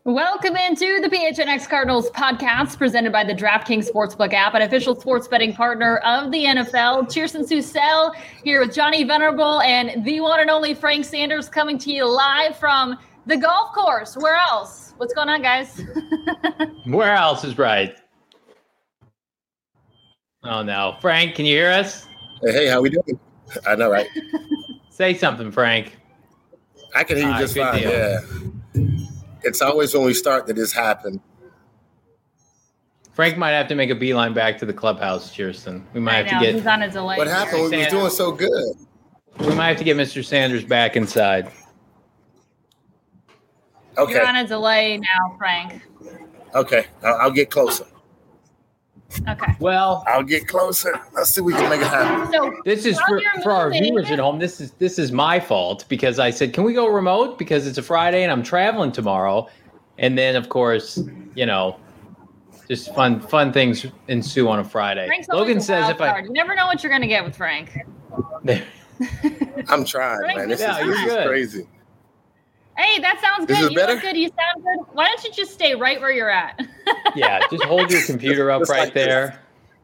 Welcome into the PHNX Cardinals podcast presented by the DraftKings Sportsbook app, an official sports betting partner of the NFL. Chierstin Susel here with Johnny Venerable and the one and only Frank Sanders coming to you live from the golf course. Where else? What's going on, guys? Where else is right? Oh, no. Frank, can you hear us? Hey, how we doing? I know, right? Say something, Frank. I can hear you just fine, yeah. It's always when we start that this happens. Frank might have to make a beeline back to the clubhouse, Chierstin. We might have to get. He's on a delay. What happened? We was doing so good. We might have to get Mr. Sanders back inside. Okay. You're on a delay now, Frank. Okay. I'll get closer. Okay. Well, I'll get closer. Let's see if we can make it happen. So this is for our viewers at home. This is my fault because I said, can we go remote? Because it's a Friday and I'm traveling tomorrow. And then, of course, just fun things ensue on a Friday. Frank's Logan says you never know what you're going to get with Frank. I'm trying, man. This is crazy. Hey, that sounds good. You look good. You sound good. Why don't you just stay right where you're at? Yeah, just hold your computer up right there.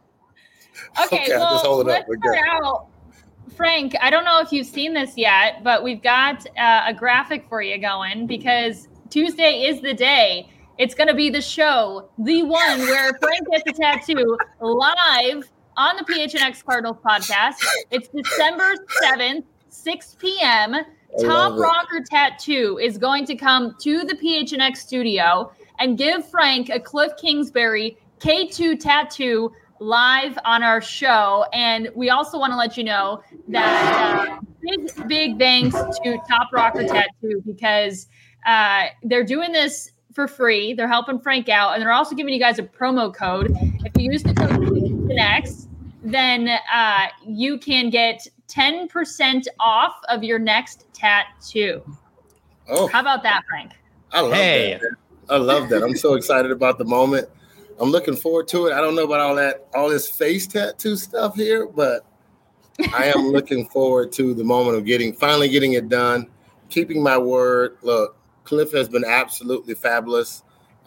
Okay, well, just hold it up. let's start out. Frank, I don't know if you've seen this yet, but we've got a graphic for you going because Tuesday is the day. It's going to be the show, the one where Frank gets a tattoo live on the PHNX Cardinals podcast. It's December 7th, 6 p.m., Top Rocker Tattoo is going to come to the PHNX studio and give Frank a Cliff Kingsbury K2 tattoo live on our show. And we also want to let you know that big thanks to Top Rocker Tattoo because they're doing this for free. They're helping Frank out. And they're also giving you guys a promo code. If you use the code PHNX, then you can get 10% off of your next tattoo. Oh, how about that, Frank? I love that. I'm so excited about the moment. I'm looking forward to it. I don't know about all this face tattoo stuff here, but I am looking forward to the moment of finally getting it done, keeping my word. Look, Cliff has been absolutely fabulous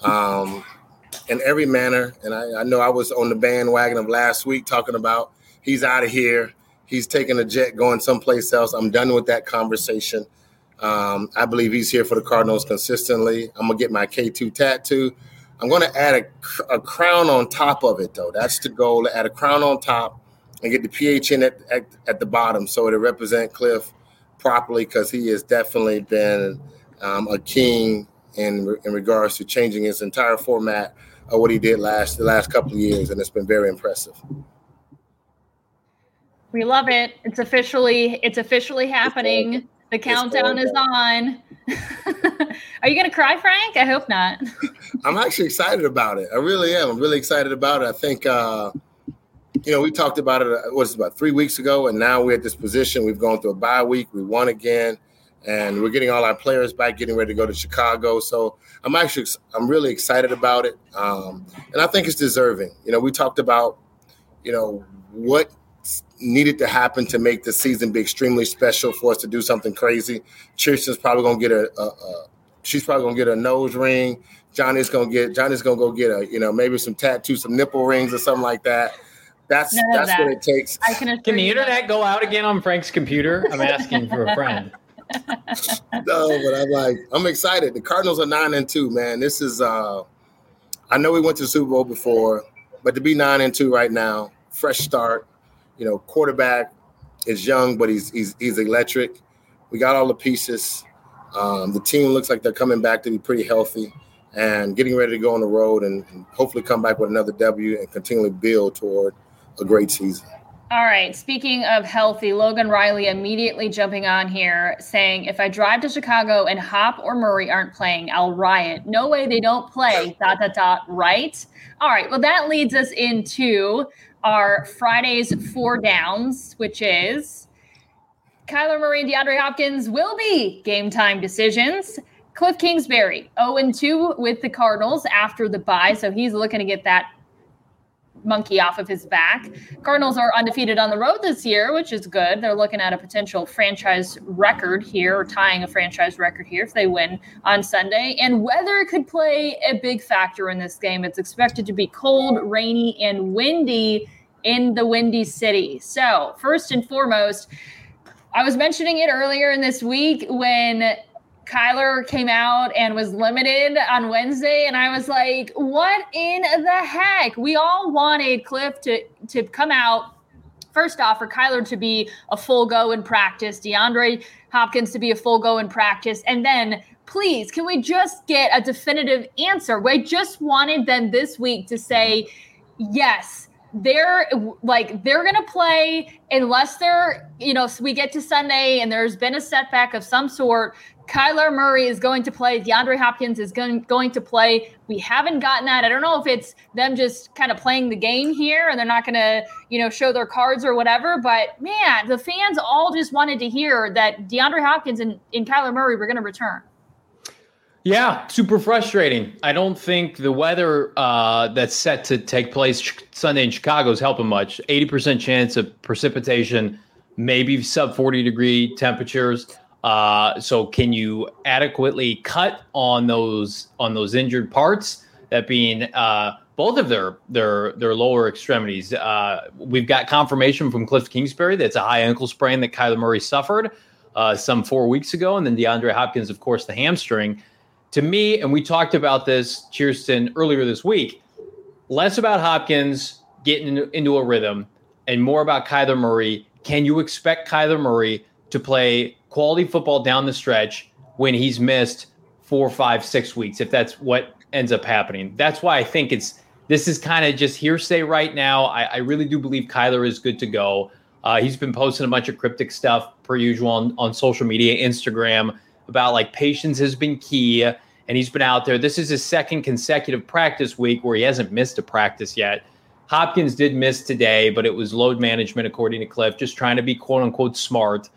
in every manner. And I know I was on the bandwagon of last week talking about he's out of here. He's taking a jet going someplace else. I'm done with that conversation. I believe he's here for the Cardinals consistently. I'm going to get my K2 tattoo. I'm going to add a crown on top of it, though. That's the goal, to add a crown on top and get the PHN at the bottom so it'll represent Cliff properly because he has definitely been a king in regards to changing his entire format of what he did the last couple of years, and it's been very impressive. We love it. It's officially happening. The countdown is on. Are you going to cry, Frank? I hope not. I'm actually excited about it. I really am. I'm really excited about it. I think, we talked about it, about 3 weeks ago, and now we're at this position. We've gone through a bye week. We won again, and we're getting all our players back, getting ready to go to Chicago. So I'm really excited about it, and I think it's deserving. We talked about, what needed to happen to make the season be extremely special for us to do something crazy. Chierstin's probably going to get she's probably going to get a nose ring. Johnny's going to go get maybe some tattoos, some nipple rings or something like that. That's what it takes. Can the internet go out again on Frank's computer? I'm asking for a friend. No, but I'm excited. The Cardinals are 9-2, man. This is, I know we went to the Super Bowl before, but to be 9-2 right now, fresh start. Quarterback is young, but he's electric. We got all the pieces. The team looks like they're coming back to be pretty healthy and getting ready to go on the road and hopefully come back with another W and continually build toward a great season. All right. Speaking of healthy, Logan Riley immediately jumping on here saying, if I drive to Chicago and Hop or Murray aren't playing, I'll riot. No way they don't play, ... right? All right. Well, that leads us into our Friday's 4 downs, which is Kyler Murray and DeAndre Hopkins will be game time decisions. Cliff Kingsbury, 0-2 with the Cardinals after the bye, so he's looking to get that monkey off of his back. Cardinals are undefeated on the road this year, which is good. They're looking at a potential franchise record here, or tying a franchise record here if they win on Sunday. And weather could play a big factor in this game. It's expected to be cold, rainy, and windy in the Windy City. So first and foremost, I was mentioning it earlier in this week when Kyler came out and was limited on Wednesday, and I was like, what in the heck? We all wanted Cliff to come out, first off, for Kyler to be a full go in practice, DeAndre Hopkins to be a full go in practice, and then please, can we just get a definitive answer? We just wanted them this week to say, yes, they're going to play unless they're, we get to Sunday and there's been a setback of some sort. Kyler Murray is going to play. DeAndre Hopkins is going to play. We haven't gotten that. I don't know if it's them just kind of playing the game here and they're not going to, show their cards or whatever. But, man, the fans all just wanted to hear that DeAndre Hopkins and Kyler Murray were going to return. Yeah, super frustrating. I don't think the weather that's set to take place Sunday in Chicago is helping much. 80% chance of precipitation, maybe sub 40-degree temperatures. So can you adequately cut on those injured parts? That being both of their lower extremities. We've got confirmation from Cliff Kingsbury that's a high ankle sprain that Kyler Murray suffered some 4 weeks ago, and then DeAndre Hopkins, of course, the hamstring. To me, and we talked about this, Cheerston, earlier this week, less about Hopkins getting into a rhythm and more about Kyler Murray. Can you expect Kyler Murray to play quality football down the stretch when he's missed 4, 5, 6 weeks, if that's what ends up happening? That's why I think this is kind of just hearsay right now. I really do believe Kyler is good to go. He's been posting a bunch of cryptic stuff per usual on social media, Instagram, about like patience has been key, and he's been out there. This is his second consecutive practice week where he hasn't missed a practice yet. Hopkins did miss today, but it was load management, according to Cliff, just trying to be quote unquote smart.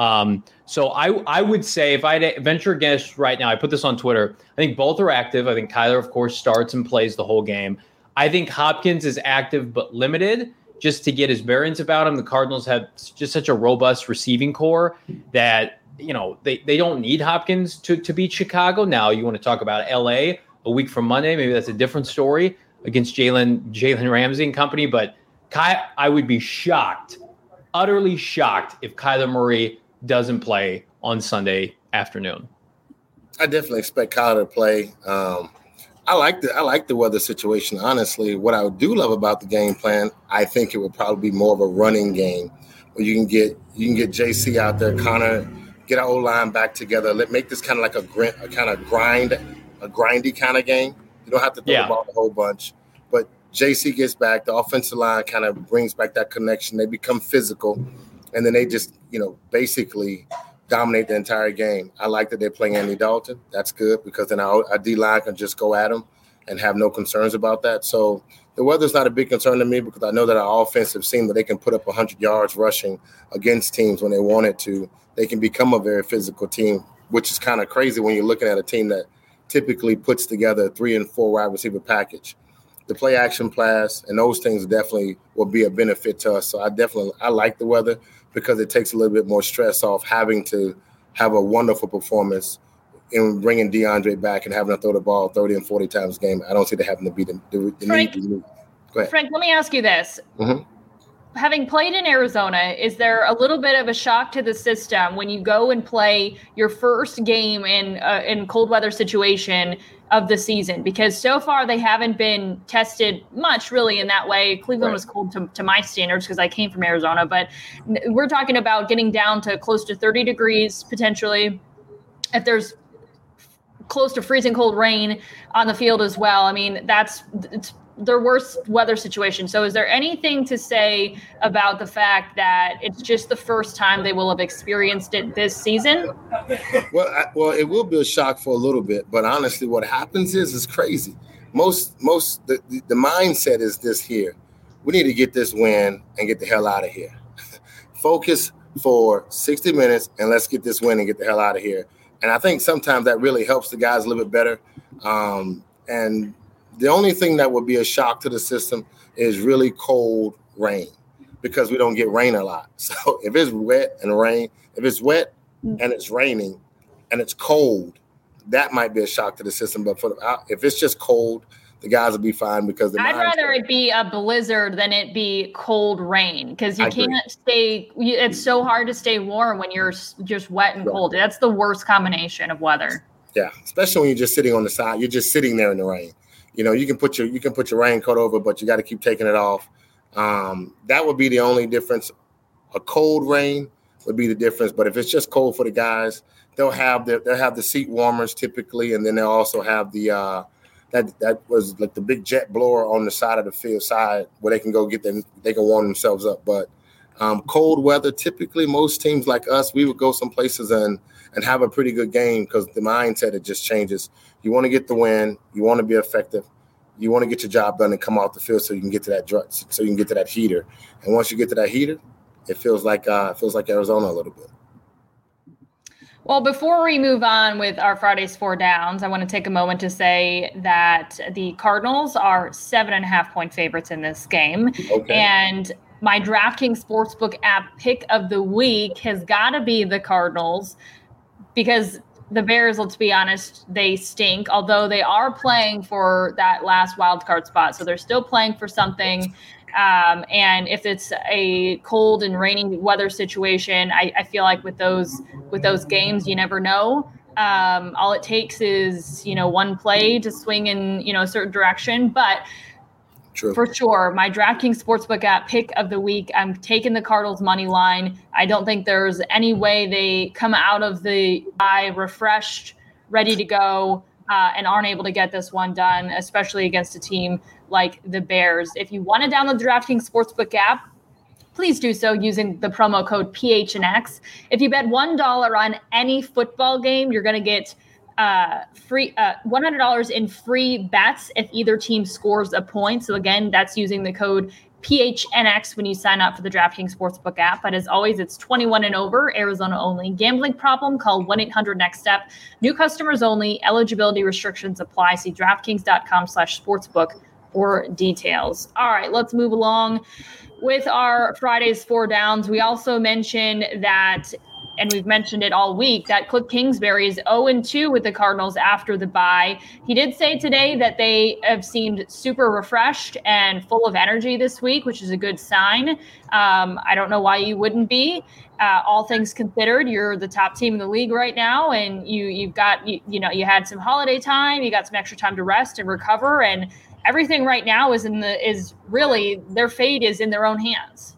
So I would say, if I had to venture a guess right now, I put this on Twitter, I think both are active. I think Kyler, of course, starts and plays the whole game. I think Hopkins is active but limited, just to get his bearings about him. The Cardinals have just such a robust receiving core that they don't need Hopkins to beat Chicago. Now, you want to talk about LA a week from Monday, maybe that's a different story against Jalen Ramsey and company. But I would be shocked, utterly shocked, if Kyler Murray doesn't play on Sunday afternoon. I definitely expect Kyler to play. I like the weather situation. Honestly, what I do love about the game plan, I think it would probably be more of a running game where you can get JC out there, Connor, get our O-line back together. Make this kind of like a grindy kind of game. You don't have to throw the ball a whole bunch. But JC gets back. The offensive line kind of brings back that connection. They become physical. And then they just, basically dominate the entire game. I like that they're playing Andy Dalton. That's good because then our D-line can just go at him and have no concerns about that. So the weather's not a big concern to me because I know that our offensive team, that they can put up 100 yards rushing against teams when they want it to. They can become a very physical team, which is kind of crazy when you're looking at a team that typically puts together a 3 and 4 wide receiver package. The play action pass and those things definitely will be a benefit to us. So I like the weather because it takes a little bit more stress off having to have a wonderful performance in bringing DeAndre back and having to throw the ball 30 and 40 times a game. I don't see that having to be the Frank, need. Go ahead. Frank, let me ask you this. Mm-hmm. Having played in Arizona, is there a little bit of a shock to the system when you go and play your first game in cold weather situation of the season? Because so far they haven't been tested much really in that way. Cleveland was cold to my standards because I came from Arizona, but we're talking about getting down to close to 30 degrees potentially. If there's close to freezing cold rain on the field as well, I mean, it's their worst weather situation. So is there anything to say about the fact that it's just the first time they will have experienced it this season? Well, it will be a shock for a little bit, but honestly, what happens is crazy. The mindset is this here. We need to get this win and get the hell out of here. Focus for 60 minutes and let's get this win and get the hell out of here. And I think sometimes that really helps the guys a little bit better. And The only thing that would be a shock to the system is really cold rain, because we don't get rain a lot. So if it's wet and it's raining and it's cold, that might be a shock to the system. But if it's just cold, the guys will be fine, because I'd rather it be a blizzard than it be cold rain, because you can't stay. It's so hard to stay warm when you're just wet and cold. That's the worst combination of weather. Yeah, especially when you're just sitting on the side. You're just sitting there in the rain. You can put your raincoat over, but you got to keep taking it off. That would be the only difference. A cold rain would be the difference. But if it's just cold for the guys, they'll have the seat warmers typically, and then they'll also have the that was like the big jet blower on the side of the field side where they can go they can warm themselves up. But cold weather, typically most teams like us, we would go some places and have a pretty good game, because the mindset, it just changes. You want to get the win, you want to be effective, you want to get your job done and come off the field so you can get to that heater. And once you get to that heater, it feels like Arizona a little bit. Well, before we move on with our Friday's Four Downs, I want to take a moment to say that the Cardinals are 7.5-point favorites in this game. Okay. And my DraftKings Sportsbook app pick of the week has got to be the Cardinals, because the Bears, let's be honest, they stink, although they are playing for that last wild card spot. So they're still playing for something. And if it's a cold and rainy weather situation, I feel like with those games, you never know. All it takes is, one play to swing in, a certain direction. But True. For sure, my DraftKings Sportsbook app pick of the week, I'm taking the Cardinals money line. I don't think there's any way they come out of the bye refreshed, ready to go, and aren't able to get this one done, especially against a team like the Bears. If you want to download the DraftKings Sportsbook app, please do so using the promo code PHNX. If you bet $1 on any football game, you're going to get free $100 in free bets if either team scores a point. So again, that's using the code PHNX when you sign up for the DraftKings Sportsbook app. But as always, it's 21 and over, Arizona only. Gambling problem? Call 1-800-NEXT-STEP. New customers only. Eligibility restrictions apply. See DraftKings.com/sportsbook for details. All right, let's move along with our Friday's Four Downs. We also mentioned that, and we've mentioned it all week, that Cliff Kingsbury is 0-2 with the Cardinals after the bye. He did say today that they have seemed super refreshed and full of energy this week, which is a good sign. I don't know why you wouldn't be. All things considered, you're the top team in the league right now, and you had some holiday time, you got some extra time to rest and recover, and everything right now is really their fate is in their own hands.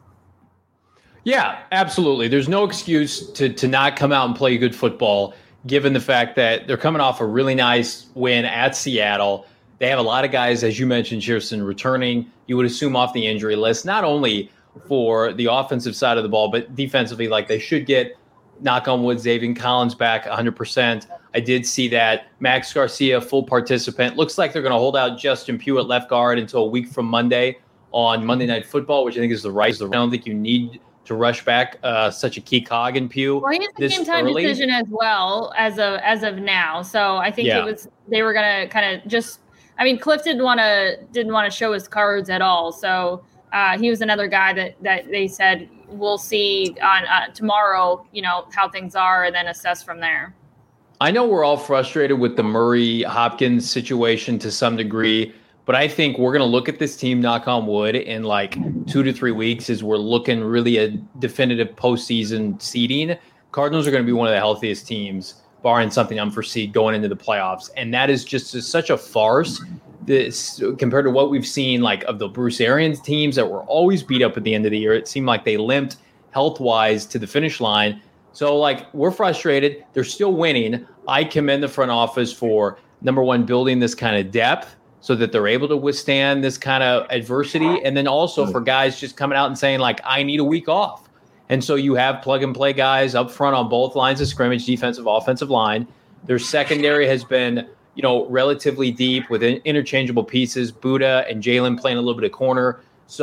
Yeah, absolutely. There's no excuse to not come out and play good football, given the fact that they're coming off a really nice win at Seattle. They have a lot of guys, as you mentioned, Shearson, returning, you would assume, off the injury list, not only for the offensive side of the ball, but defensively, like they should get, knock on wood, Zaven Collins back 100%. I did see that. Max Garcia, full participant. Looks like they're going to hold out Justin Pugh at left guard until a week from Monday on Monday Night Football, which I think is the right. I don't think you need to rush back such a key cog in Pugh. Well, he's a game time decision as well as of now. So I think they were going to kind of just. I mean, Cliff didn't want to show his cards at all. So he was another guy that they said we'll see on tomorrow. How things are, and then assess from there. I know we're all frustrated with the Murray Hopkins situation to some degree. But I think we're going to look at this team, knock on wood, in like 2 to 3 weeks as we're looking really a definitive postseason seeding. Cardinals are going to be one of the healthiest teams, barring something unforeseen, going into the playoffs. And that is just such a farce compared to what we've seen like of the Bruce Arians teams that were always beat up at the end of the year. It seemed like they limped health-wise to the finish line. So, like, we're frustrated. They're still winning. I commend the front office for, number one, building this kind of depth so that they're able to withstand this kind of adversity. And then also for guys just coming out and saying, like, I need a week off. And so you have plug-and-play guys up front on both lines of scrimmage, defensive, offensive line. Their secondary has been, relatively deep with interchangeable pieces, Buddha and Jalen playing a little bit of corner. So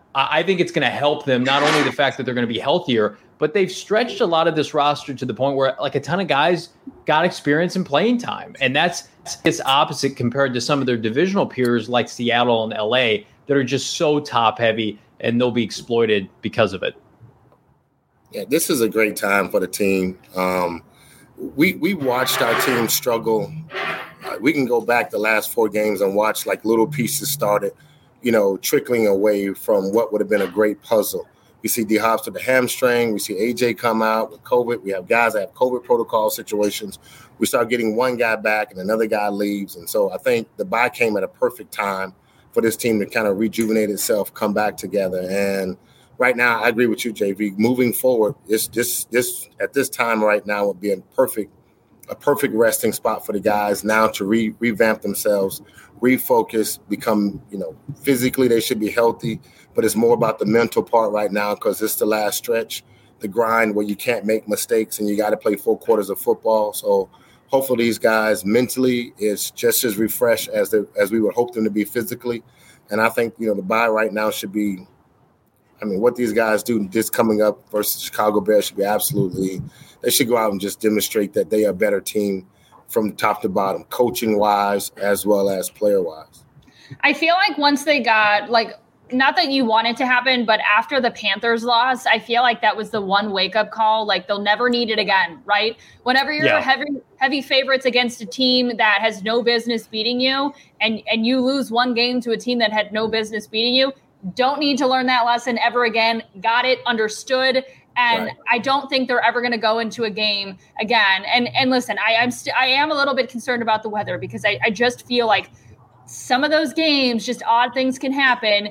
I think it's going to help them, not only the fact that they're going to be healthier, but they've stretched a lot of this roster to the point where like a ton of guys got experience in playing time. And it's opposite compared to some of their divisional peers like Seattle and LA that are just so top heavy, and they'll be exploited because of it. Yeah, this is a great time for the team. We watched our team struggle. We can go back the last 4 games and watch like little pieces started, trickling away from what would have been a great puzzle. We see D-Hops with the hamstring. We see AJ come out with COVID. We have guys that have COVID protocol situations. We start getting one guy back and another guy leaves. And so I think the bye came at a perfect time for this team to kind of rejuvenate itself, come back together. And right now, I agree with you, JV. Moving forward, this at this time right now would be a perfect resting spot for the guys now to revamp themselves, refocus, become, physically they should be healthy, but it's more about the mental part right now because it's the last stretch, the grind where you can't make mistakes and you got to play 4 quarters of football. So hopefully these guys mentally is just as refreshed as we would hope them to be physically. And I think, the bye right now should be, what these guys do this coming up versus Chicago Bears should be they should go out and just demonstrate that they are a better team from top to bottom, coaching-wise as well as player-wise. I feel like once they got, not that you want it to happen, but after the Panthers loss, I feel like that was the one wake-up call. Like, they'll never need it again, right? Whenever you're heavy favorites against a team that has no business beating you and you lose one game to a team that had no business beating you, don't need to learn that lesson ever again. Got it, understood. And right. I don't think they're ever going to go into a game again. And listen, I am a little bit concerned about the weather because I just feel like some of those games, just odd things can happen.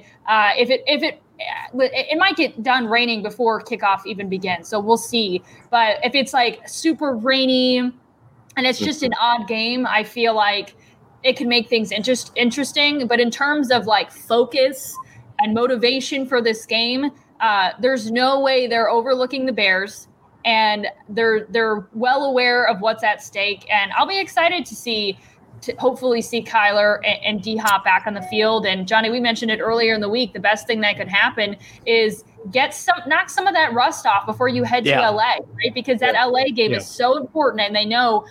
It might get done raining before kickoff even begins. So we'll see. But if it's like super rainy and it's just an odd game, I feel like it can make things interesting. But in terms of like focus and motivation for this game, there's no way they're overlooking the Bears, and they're well aware of what's at stake. And I'll be excited to hopefully see Kyler and D-Hop back on the field. And Johnny, we mentioned it earlier in the week. The best thing that could happen is knock some of that rust off before you head to LA, right? Because that LA game is so important, and they know,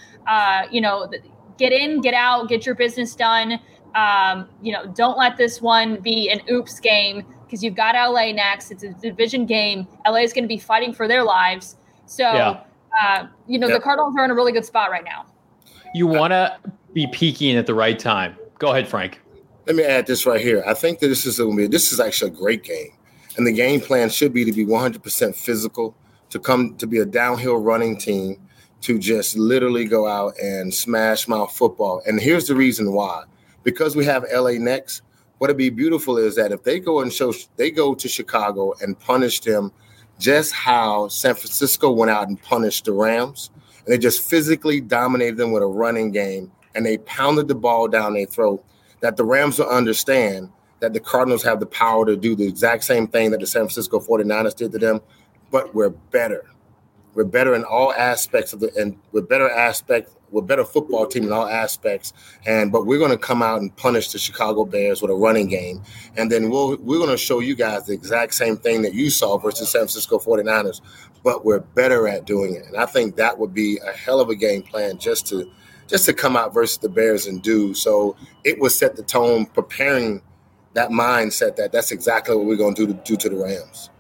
get in, get out, get your business done. Don't let this one be an oops game because you've got LA next. It's a division game. LA is going to be fighting for their lives. So, the Cardinals are in a really good spot right now. You want to be peaking at the right time. Go ahead, Frank. Let me add this right here. I think that this is actually a great game. And the game plan should be to be 100% physical, to be a downhill running team, to just literally go out and smash mouth football. And here's the reason why. Because we have LA next, what'd be beautiful is that if they go to Chicago and punish them just how San Francisco went out and punished the Rams, and they just physically dominated them with a running game, and they pounded the ball down their throat, that the Rams will understand that the Cardinals have the power to do the exact same thing that the San Francisco 49ers did to them, but we're better. We're better in all aspects we're better football team in all aspects. But we're going to come out and punish the Chicago Bears with a running game. And then we're going to show you guys the exact same thing that you saw versus San Francisco 49ers, but we're better at doing it. And I think that would be a hell of a game plan just to come out versus the Bears and do. So it will set the tone, preparing that mindset that's exactly what we're going to do to the Rams.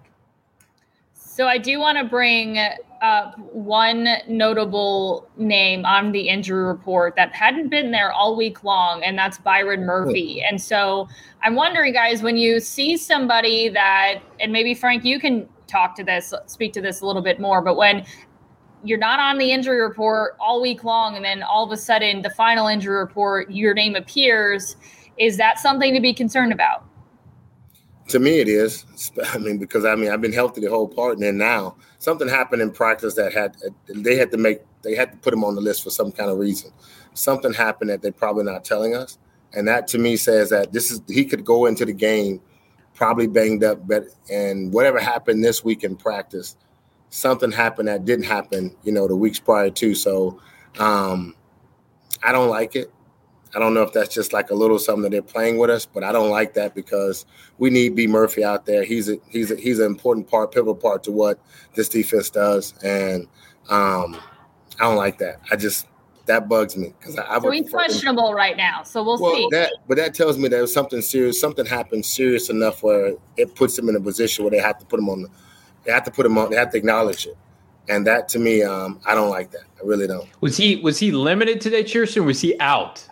So I do want to bring up one notable name on the injury report that hadn't been there all week long, and that's Byron Murphy. And so I'm wondering, guys, when you see somebody that, and maybe Frank, you can speak to this a little bit more, but when you're not on the injury report all week long and then all of a sudden the final injury report, your name appears, is that something to be concerned about? To me, it is. Because I've been healthy the whole part, and then now something happened in practice that they had to put him on the list for some kind of reason. Something happened that they're probably not telling us, and that to me says that he could go into the game probably banged up, and whatever happened this week in practice, something happened that didn't happen, the weeks prior to. So I don't like it. I don't know if that's just like a little something that they're playing with us, but I don't like that because we need B. Murphy out there. He's an important part, pivotal part to what this defense does, and I don't like that. That bugs me because so he's questionable right now. So we'll see. But that tells me there's something serious. Something happened serious enough where it puts him in a position where they have to put him on. They have to acknowledge it. And that, to me, I don't like that. I really don't. Was he limited today, Chierstin, or was he out?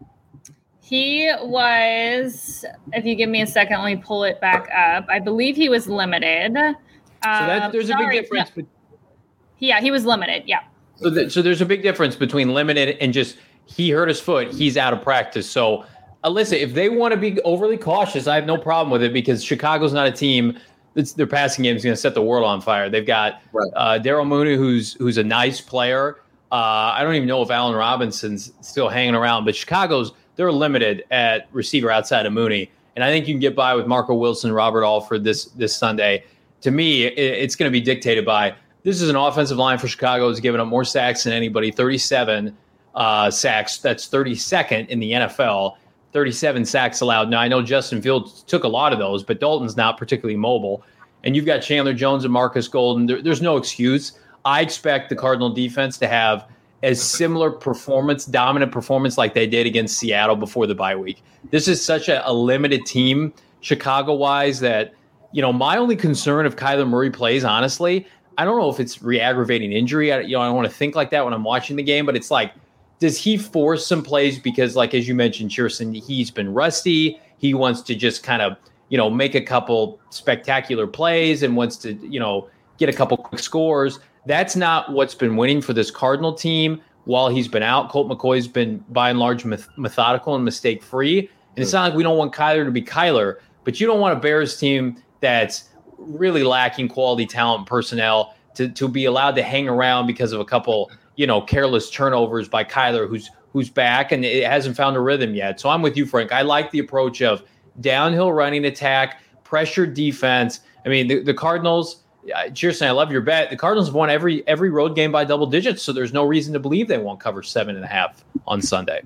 He was, if you give me a second, let me pull it back up. I believe he was limited. So there's a big difference. No. Yeah, he was limited, yeah. So there's a big difference between limited and just he hurt his foot, he's out of practice. So, listen, if they want to be overly cautious, I have no problem with it because Chicago's not a team – their passing game is going to set the world on fire. They've got Darrell Mooney, who's a nice player. I don't even know if Allen Robinson's still hanging around, but they're limited at receiver outside of Mooney, and I think you can get by with Marco Wilson, Robert Alford this Sunday. To me, it's going to be dictated by this is an offensive line for Chicago has given up more sacks than anybody, 37 sacks. That's 32nd in the NFL. 37 sacks allowed. Now, I know Justin Fields took a lot of those, but Dalton's not particularly mobile. And you've got Chandler Jones and Marcus Golden. There's no excuse. I expect the Cardinal defense to have as similar dominant performance like they did against Seattle before the bye week. This is such a limited team, Chicago-wise, that, my only concern if Kyler Murray plays, honestly, I don't know if it's re-aggravating injury. I don't want to think like that when I'm watching the game, but it's like, does he force some plays because, like, as you mentioned, Chierstin, he's been rusty. He wants to just kind of, make a couple spectacular plays and wants to, get a couple quick scores. That's not what's been winning for this Cardinal team while he's been out. Colt McCoy's been, by and large, methodical and mistake-free. And it's not like we don't want Kyler to be Kyler, but you don't want a Bears team that's really lacking quality talent and personnel to be allowed to hang around because of a couple – careless turnovers by Kyler, who's back and it hasn't found a rhythm yet. So I'm with you, Frank. I like the approach of downhill running attack, pressure defense. I mean, the Cardinals, Chierstin, I love your bet. The Cardinals have won every road game by double digits, so there's no reason to believe they won't cover 7.5 on Sunday.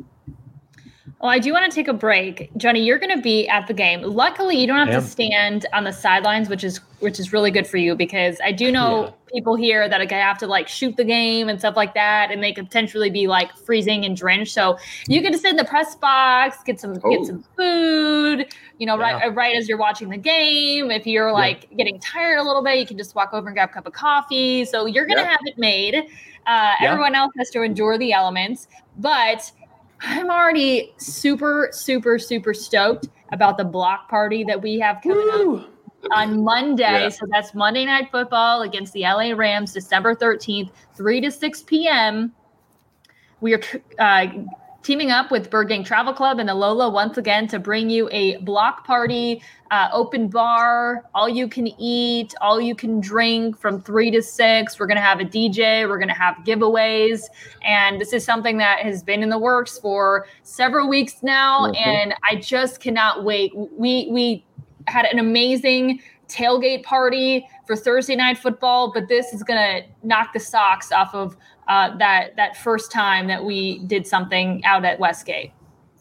Well, I do want to take a break. Johnny, you're going to be at the game. Luckily, you don't have to stand on the sidelines, which is really good for you because I do know people here that have to shoot the game and stuff like that, and they could potentially be freezing and drenched. So you get to sit in the press box, get some food, right as you're watching the game. If you're getting tired a little bit, you can just walk over and grab a cup of coffee. So you're going to have it made. Everyone else has to endure the elements, but I'm already super, super, super stoked about the block party that we have coming up on Monday. Yeah. So that's Monday Night Football against the LA Rams, December 13th, 3 to 6 p.m. We are teaming up with Bird Gang Travel Club and the Lola once again to bring you a block party, open bar, all you can eat, all you can drink from 3 to 6. We're going to have a DJ. We're going to have giveaways. And this is something that has been in the works for several weeks now. Mm-hmm. And I just cannot wait. We had an amazing tailgate party for Thursday Night Football, but this is going to knock the socks off of that first time that we did something out at Westgate.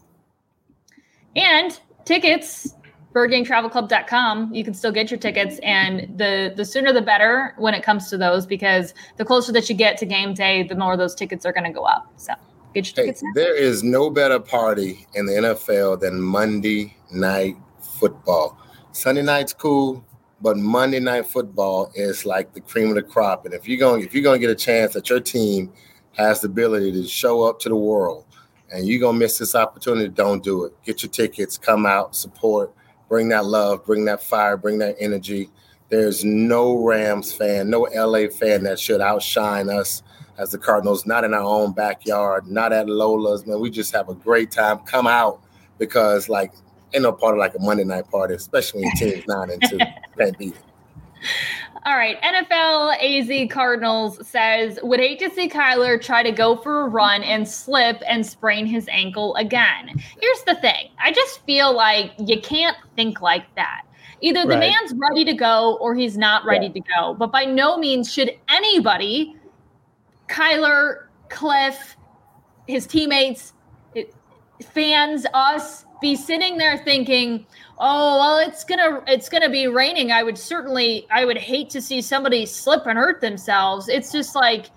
And tickets, birdgangtravelclub.com, you can still get your tickets, and the sooner the better when it comes to those, because the closer that you get to game day, the more those tickets are going to go up. So get your tickets now. There is no better party in the NFL than Monday Night Football. Sunday night's cool, but Monday Night Football is like the cream of the crop. And if you're going to get a chance that your team has the ability to show up to the world and you're going to miss this opportunity, don't do it. Get your tickets, come out, support, bring that love, bring that fire, bring that energy. There's no Rams fan, no LA fan that should outshine us as the Cardinals, not in our own backyard, not at Lola's. Man, we just have a great time. Come out because, ain't no party like a Monday night party, especially when your team's 9-2. Can't beat it. All right. NFL AZ Cardinals says, would hate to see Kyler try to go for a run and slip and sprain his ankle again. Here's the thing. I just feel like you can't think like that. Either the man's ready to go or he's not ready to go. But by no means should anybody, Kyler, Cliff, his teammates, fans, us, be sitting there thinking, oh, well, it's gonna be raining. I would hate to see somebody slip and hurt themselves. It's just like,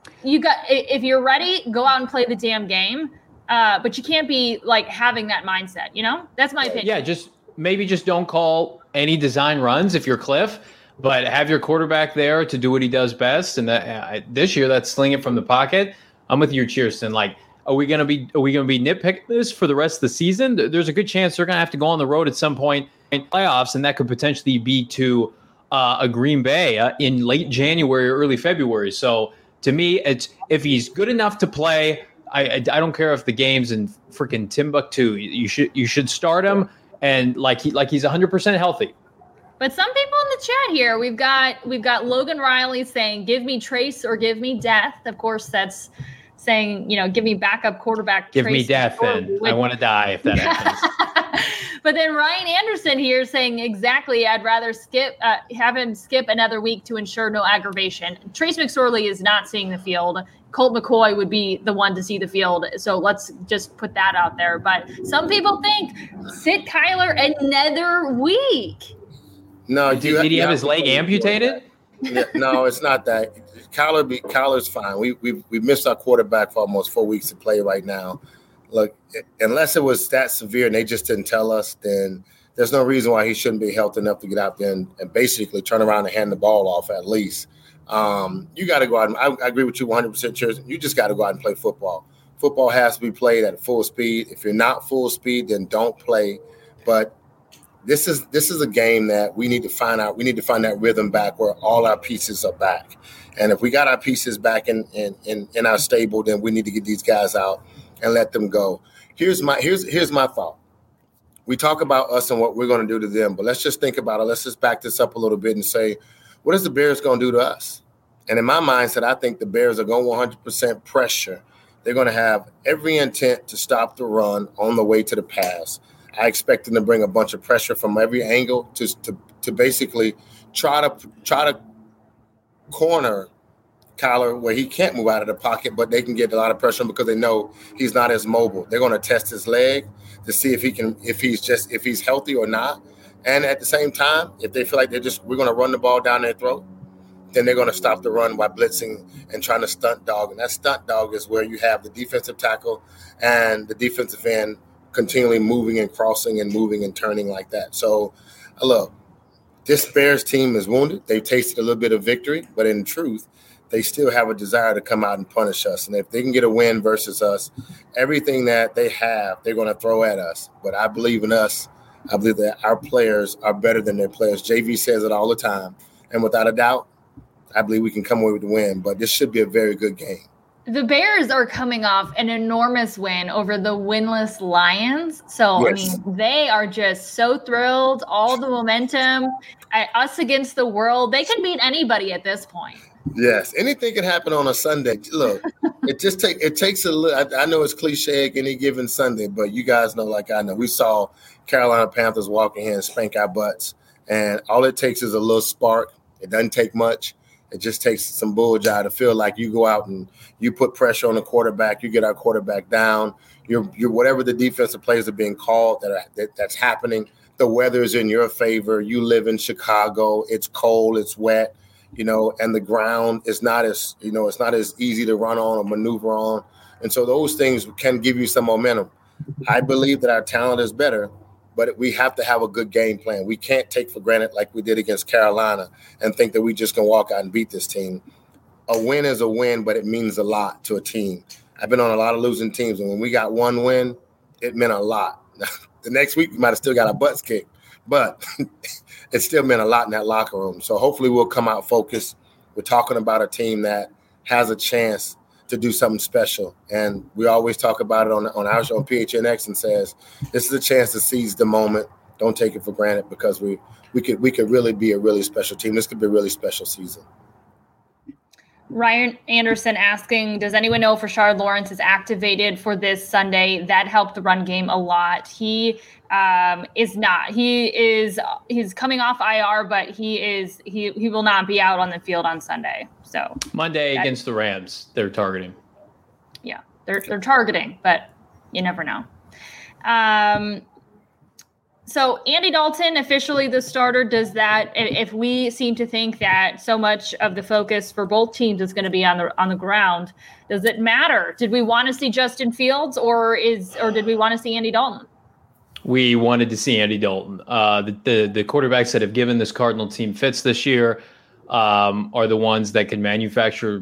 if you're ready, go out and play the damn game. But you can't be like having that mindset, That's my opinion. Yeah, just don't call any design runs if you're Cliff, but have your quarterback there to do what he does best. And that this year, that's sling it from the pocket. I'm with you, Cheerson. Like, are we gonna be nitpicking this for the rest of the season? There's a good chance they're gonna have to go on the road at some point in playoffs, and that could potentially be to a Green Bay in late January or early February. So to me, it's if he's good enough to play. I don't care if the game's in freaking Timbuktu. You should start him, and like he's 100% healthy. But some people in the chat here, we've got Logan Riley saying, "Give me Trace or give me death." Of course, that's saying, give me backup quarterback. Give me death, then I want to die if that happens. But then Ryan Anderson here saying exactly, I'd rather have him skip another week to ensure no aggravation. Trace McSorley is not seeing the field. Colt McCoy would be the one to see the field. So let's just put that out there. But some people think sit Kyler another week. No, did he have his leg amputated? No, it's not that. Kyler's fine. We missed our quarterback for almost 4 weeks to play right now. Look, unless it was that severe and they just didn't tell us, then there's no reason why he shouldn't be healthy enough to get out there and basically turn around and hand the ball off at least. You got to go out. I agree with you 100%, Cheers. You just got to go out and play football. Football has to be played at full speed. If you're not full speed, then don't play. But this is a game that we need to find out. We need to find that rhythm back where all our pieces are back. And if we got our pieces back in our stable, then we need to get these guys out and let them go. Here's my thought. We talk about us and what we're going to do to them, but let's just think about it. Let's just back this up a little bit and say, what is the Bears going to do to us? And in my mindset, I think the Bears are going 100% pressure. They're going to have every intent to stop the run on the way to the pass. I expect them to bring a bunch of pressure from every angle to basically try to corner Kyler where he can't move out of the pocket, but they can get a lot of pressure because they know he's not as mobile. They're going to test his leg to see if he's healthy or not. And at the same time, if they feel like we're going to run the ball down their throat, then they're going to stop the run by blitzing and trying to stunt dog. And that stunt dog is where you have the defensive tackle and the defensive end continually moving and crossing and moving and turning like that. So, look, this Bears team is wounded. They've tasted a little bit of victory, but in truth, they still have a desire to come out and punish us. And if they can get a win versus us, everything that they have, they're going to throw at us. But I believe in us. I believe that our players are better than their players. JV says it all the time. And without a doubt, I believe we can come away with the win. But this should be a very good game. The Bears are coming off an enormous win over the winless Lions. So, yes. I mean, they are just so thrilled. All the momentum, us against the world. They can beat anybody at this point. Yes, anything can happen on a Sunday. Look, it takes a little. I know it's cliche any given Sunday, but you guys know, like I know, we saw Carolina Panthers walk in here and spank our butts, and all it takes is a little spark. It doesn't take much. It just takes some bullseye to feel like you go out and you put pressure on the quarterback. You get our quarterback down. You're whatever the defensive plays are being called that's happening. The weather is in your favor. You live in Chicago. It's cold. It's wet. And the ground is not as, it's not as easy to run on or maneuver on. And so those things can give you some momentum. I believe that our talent is better, but we have to have a good game plan. We can't take for granted like we did against Carolina and think that we just can walk out and beat this team. A win is a win, but it means a lot to a team. I've been on a lot of losing teams, and when we got one win, it meant a lot. The next week, we might have still got our butts kicked, but it still meant a lot in that locker room. So hopefully we'll come out focused. We're talking about a team that has a chance to do something special. And we always talk about it on our show on PHNX and says, this is a chance to seize the moment. Don't take it for granted because we could really be a really special team. This could be a really special season. Ryan Anderson asking, does anyone know if Rashard Lawrence is activated for this Sunday? That helped the run game a lot. He is not. He's coming off IR, but he will not be out on the field on Sunday. So Monday against the Rams, they're targeting. Yeah, they're targeting, but you never know. So Andy Dalton, officially the starter, does that, if we seem to think that so much of the focus for both teams is going to be on the ground, does it matter? Did we want to see Justin Fields or did we want to see Andy Dalton? We wanted to see Andy Dalton. The quarterbacks that have given this Cardinal team fits this year are the ones that can manufacture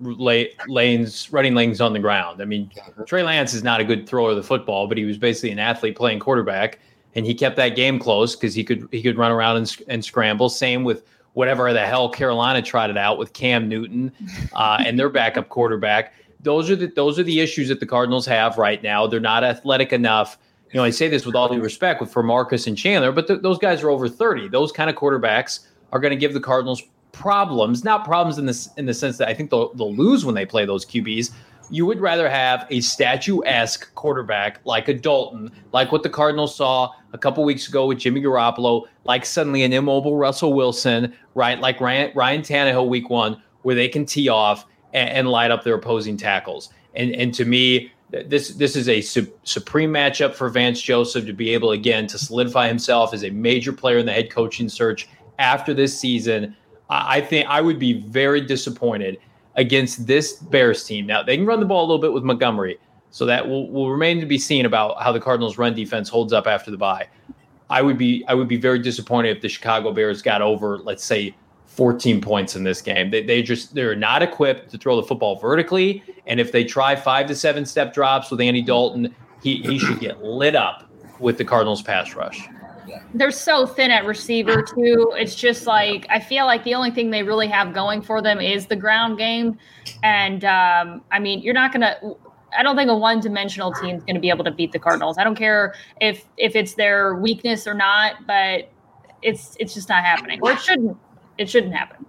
running lanes on the ground. I mean, Trey Lance is not a good thrower of the football, but he was basically an athlete playing quarterback. And he kept that game close because he could run around and scramble. Same with whatever the hell Carolina tried it out with Cam Newton and their backup quarterback. Those are the issues that the Cardinals have right now. They're not athletic enough. You know, I say this with all due respect for Marcus and Chandler, but those guys are over 30. Those kind of quarterbacks are going to give the Cardinals problems. Not problems in the sense that I think they'll lose when they play those QBs. You would rather have a statuesque quarterback like a Dalton, like what the Cardinals saw a couple weeks ago with Jimmy Garoppolo, like suddenly an immobile Russell Wilson, right? Like Ryan Tannehill week 1, where they can tee off and light up their opposing tackles. And to me, this is a supreme matchup for Vance Joseph to be able, again, to solidify himself as a major player in the head coaching search after this season. I think I would be very disappointed against this Bears team. Now, they can run the ball a little bit with Montgomery, so that will remain to be seen about how the Cardinals' run defense holds up after the bye. I would be very disappointed if the Chicago Bears got over, let's say, 14 points in this game. They're not equipped to throw the football vertically, and if they try 5 to 7 step drops with Andy Dalton, he should get lit up with the Cardinals' pass rush. They're so thin at receiver too. It's just like, I feel like the only thing they really have going for them is the ground game. And I mean, I don't think a one-dimensional team is going to be able to beat the Cardinals. I don't care if it's their weakness or not, but it's just not happening. Or it shouldn't happen.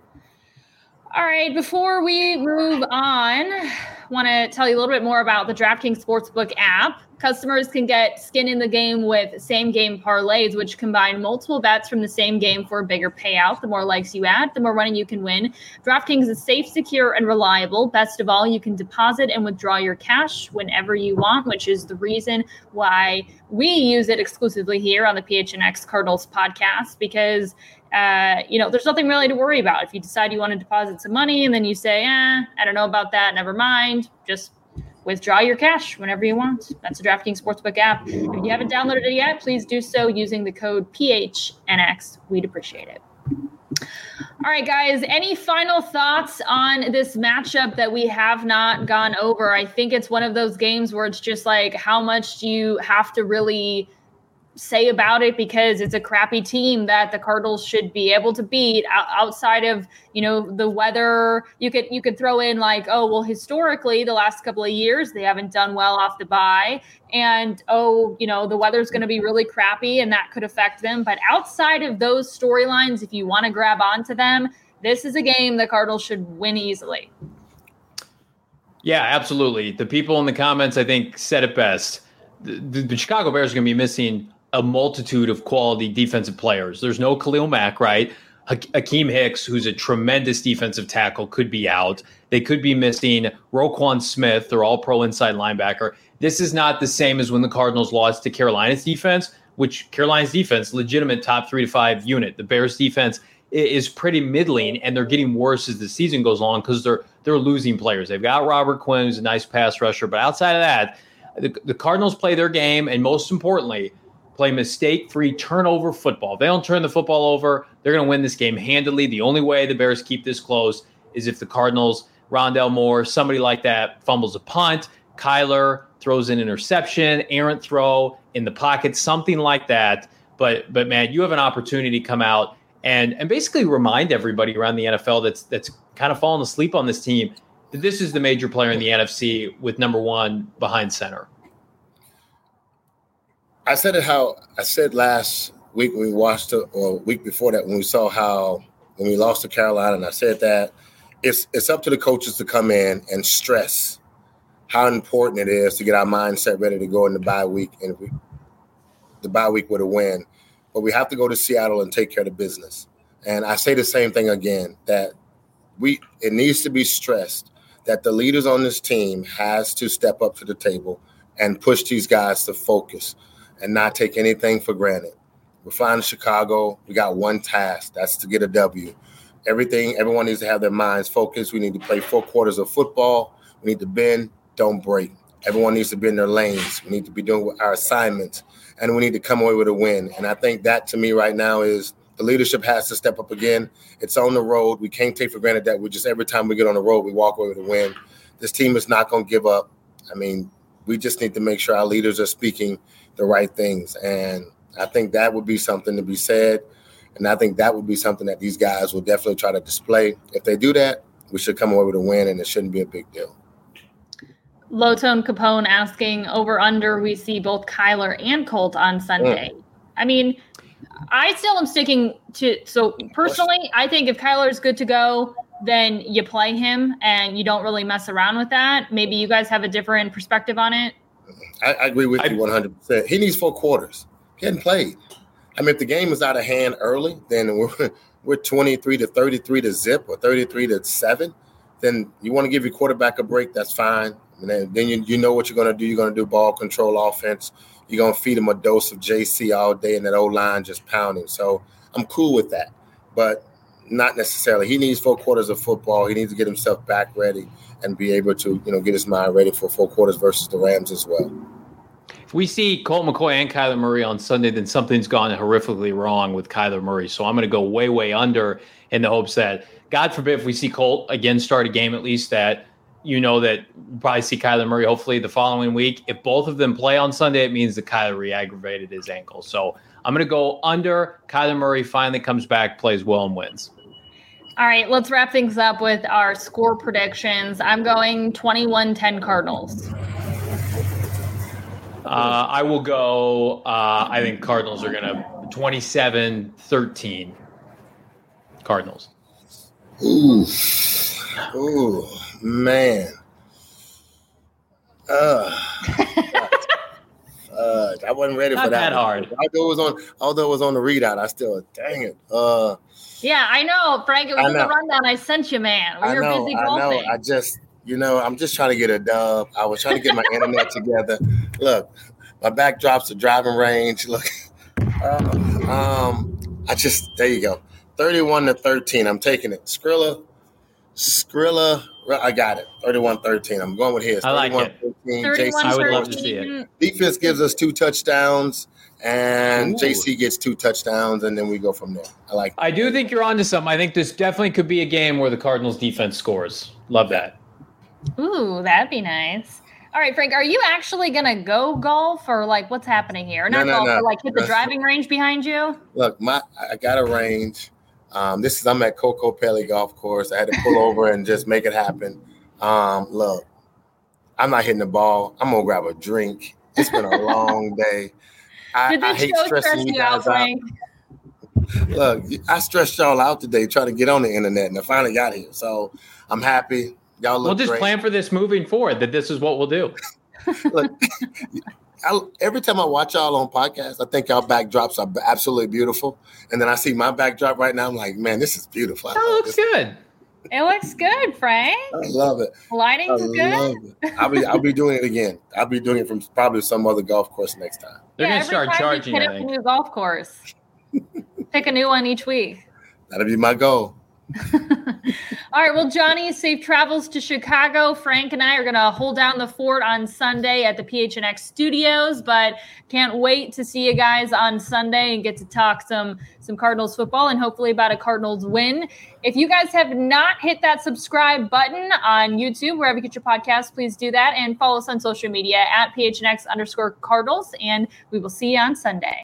All right, before we move on, I want to tell you a little bit more about the DraftKings Sportsbook app. Customers can get skin in the game with same-game parlays, which combine multiple bets from the same game for a bigger payout. The more likes you add, the more money you can win. DraftKings is safe, secure, and reliable. Best of all, you can deposit and withdraw your cash whenever you want, which is the reason why we use it exclusively here on the PHNX Cardinals podcast, because there's nothing really to worry about. If you decide you want to deposit some money and then you say, I don't know about that, never mind, just withdraw your cash whenever you want. That's the DraftKings Sportsbook app. If you haven't downloaded it yet, please do so using the code PHNX. We'd appreciate it. All right, guys, any final thoughts on this matchup that we have not gone over? I think it's one of those games where it's just like, how much do you have to really say about it, because it's a crappy team that the Cardinals should be able to beat outside of, the weather. You could throw in like, oh, well, historically the last couple of years, they haven't done well off the bye, and the weather's going to be really crappy and that could affect them. But outside of those storylines, if you want to grab onto them, this is a game the Cardinals should win easily. Yeah, absolutely. The people in the comments, I think, said it best. The Chicago Bears are going to be missing a multitude of quality defensive players. There's no Khalil Mack, right? Hakeem Hicks, who's a tremendous defensive tackle, could be out. They could be missing Roquan Smith, their all-pro inside linebacker. This is not the same as when the Cardinals lost to Carolina's defense, which Carolina's defense, legitimate top 3 to 5 unit. The Bears defense is pretty middling, and they're getting worse as the season goes on because they're losing players. They've got Robert Quinn, who's a nice pass rusher, but outside of that, the Cardinals play their game, and most importantly, play mistake-free turnover football. If they don't turn the football over, they're going to win this game handily. The only way the Bears keep this close is if the Cardinals, Rondale Moore, somebody like that, fumbles a punt, Kyler throws an interception, errant throw in the pocket, something like that. But man, you have an opportunity to come out and basically remind everybody around the NFL that's kind of fallen asleep on this team that this is the major player in the NFC with number one behind center. I said last week when we watched it, or week before that when we saw when we lost to Carolina, and I said that it's up to the coaches to come in and stress how important it is to get our mindset ready to go in the bye week, and the bye week with a win. But we have to go to Seattle and take care of the business. And I say the same thing again, that it needs to be stressed that the leaders on this team has to step up to the table, and push these guys to focus and not take anything for granted. We're flying to Chicago. We got one task. That's to get a W. Everyone needs to have their minds focused. We need to play 4 quarters of football. We need to bend, don't break. Everyone needs to be in their lanes. We need to be doing our assignments, and we need to come away with a win. And I think that, to me, right now is the leadership has to step up again. It's on the road. We can't take for granted that every time we get on the road, we walk away with a win. This team is not going to give up. I mean, we just need to make sure our leaders are speaking the right things. And I think that would be something to be said. And I think that would be something that these guys will definitely try to display. If they do that, we should come away with a win, and it shouldn't be a big deal. Low Tone Capone asking over under, we see both Kyler and Colt on Sunday. I mean, I still am sticking to, so personally, I think if Kyler is good to go, then you play him and you don't really mess around with that. Maybe you guys have a different perspective on it. I agree with you 100%. He needs 4 quarters. He hadn't played. I mean, if the game is out of hand early, then we're 23 to 33 to zip or 33 to 7. Then you want to give your quarterback a break. That's fine. And then you know what you're going to do. You're going to do ball control offense. You're going to feed him a dose of JC all day and that O-line just pounding. So I'm cool with that, but not necessarily. He needs 4 quarters of football. He needs to get himself back ready and be able to, get his mind ready for 4 quarters versus the Rams as well. If we see Colt McCoy and Kyler Murray on Sunday, then something's gone horrifically wrong with Kyler Murray. So I'm going to go way, way under in the hopes that, God forbid, if we see Colt again start a game, at least that that we'll probably see Kyler Murray hopefully the following week. If both of them play on Sunday, it means that Kyler re-aggravated his ankle. So I'm going to go under. Kyler Murray finally comes back, plays well, and wins. All right, let's wrap things up with our score predictions. I'm going 21-10 Cardinals. I will go, I think Cardinals are going to 27-13 Cardinals. Ooh, man. I wasn't ready Not for that. Not that hard. Although it was on the readout, I still, dang it. Yeah, I know, Frank. It was in the rundown I sent you, man. We were busy golfing. I just, I'm just trying to get a dub. I was trying to get my internet together. Look, my backdrop's a driving range. Look, there you go. 31-13. I'm taking it. Skrilla, I got it. 31-13. I'm going with his. I like it. JC, I would love to see it. Defense gives us 2 touchdowns, and JC gets 2 touchdowns, and then we go from there. I do think you're onto something. I think this definitely could be a game where the Cardinals defense scores. Love that. Ooh, that'd be nice. All right, Frank, are you actually going to go golf or what's happening here? Not golf, but hit the driving range behind you? Look, I got a range. I'm at Coco Pelli Golf Course. I had to pull over and just make it happen. Look, I'm not hitting the ball. I'm going to grab a drink. It's been a long day. I hate stressing you guys out. Look, I stressed y'all out today trying to get on the internet, and I finally got here. So I'm happy. Y'all look We'll just great. plan for this moving forward, that this is what we'll do. Look, every time I watch y'all on podcasts, I think y'all backdrops are absolutely beautiful. And then I see my backdrop right now. I'm like, man, this is beautiful. That looks good. It looks good, Frank. I love it. Lighting's good. I'll be doing it again. I'll be doing it from probably some other golf course next time. They're going to start charging, I think. A new golf course. Pick a new one each week. That'll be my goal. All right. Well, Johnny, safe travels to Chicago. Frank and I are going to hold down the fort on Sunday at the PHNX studios, but can't wait to see you guys on Sunday and get to talk some Cardinals football and hopefully about a Cardinals win. If you guys have not hit that subscribe button on YouTube, wherever you get your podcasts, please do that and follow us on social media at PHNX_Cardinals. And we will see you on Sunday.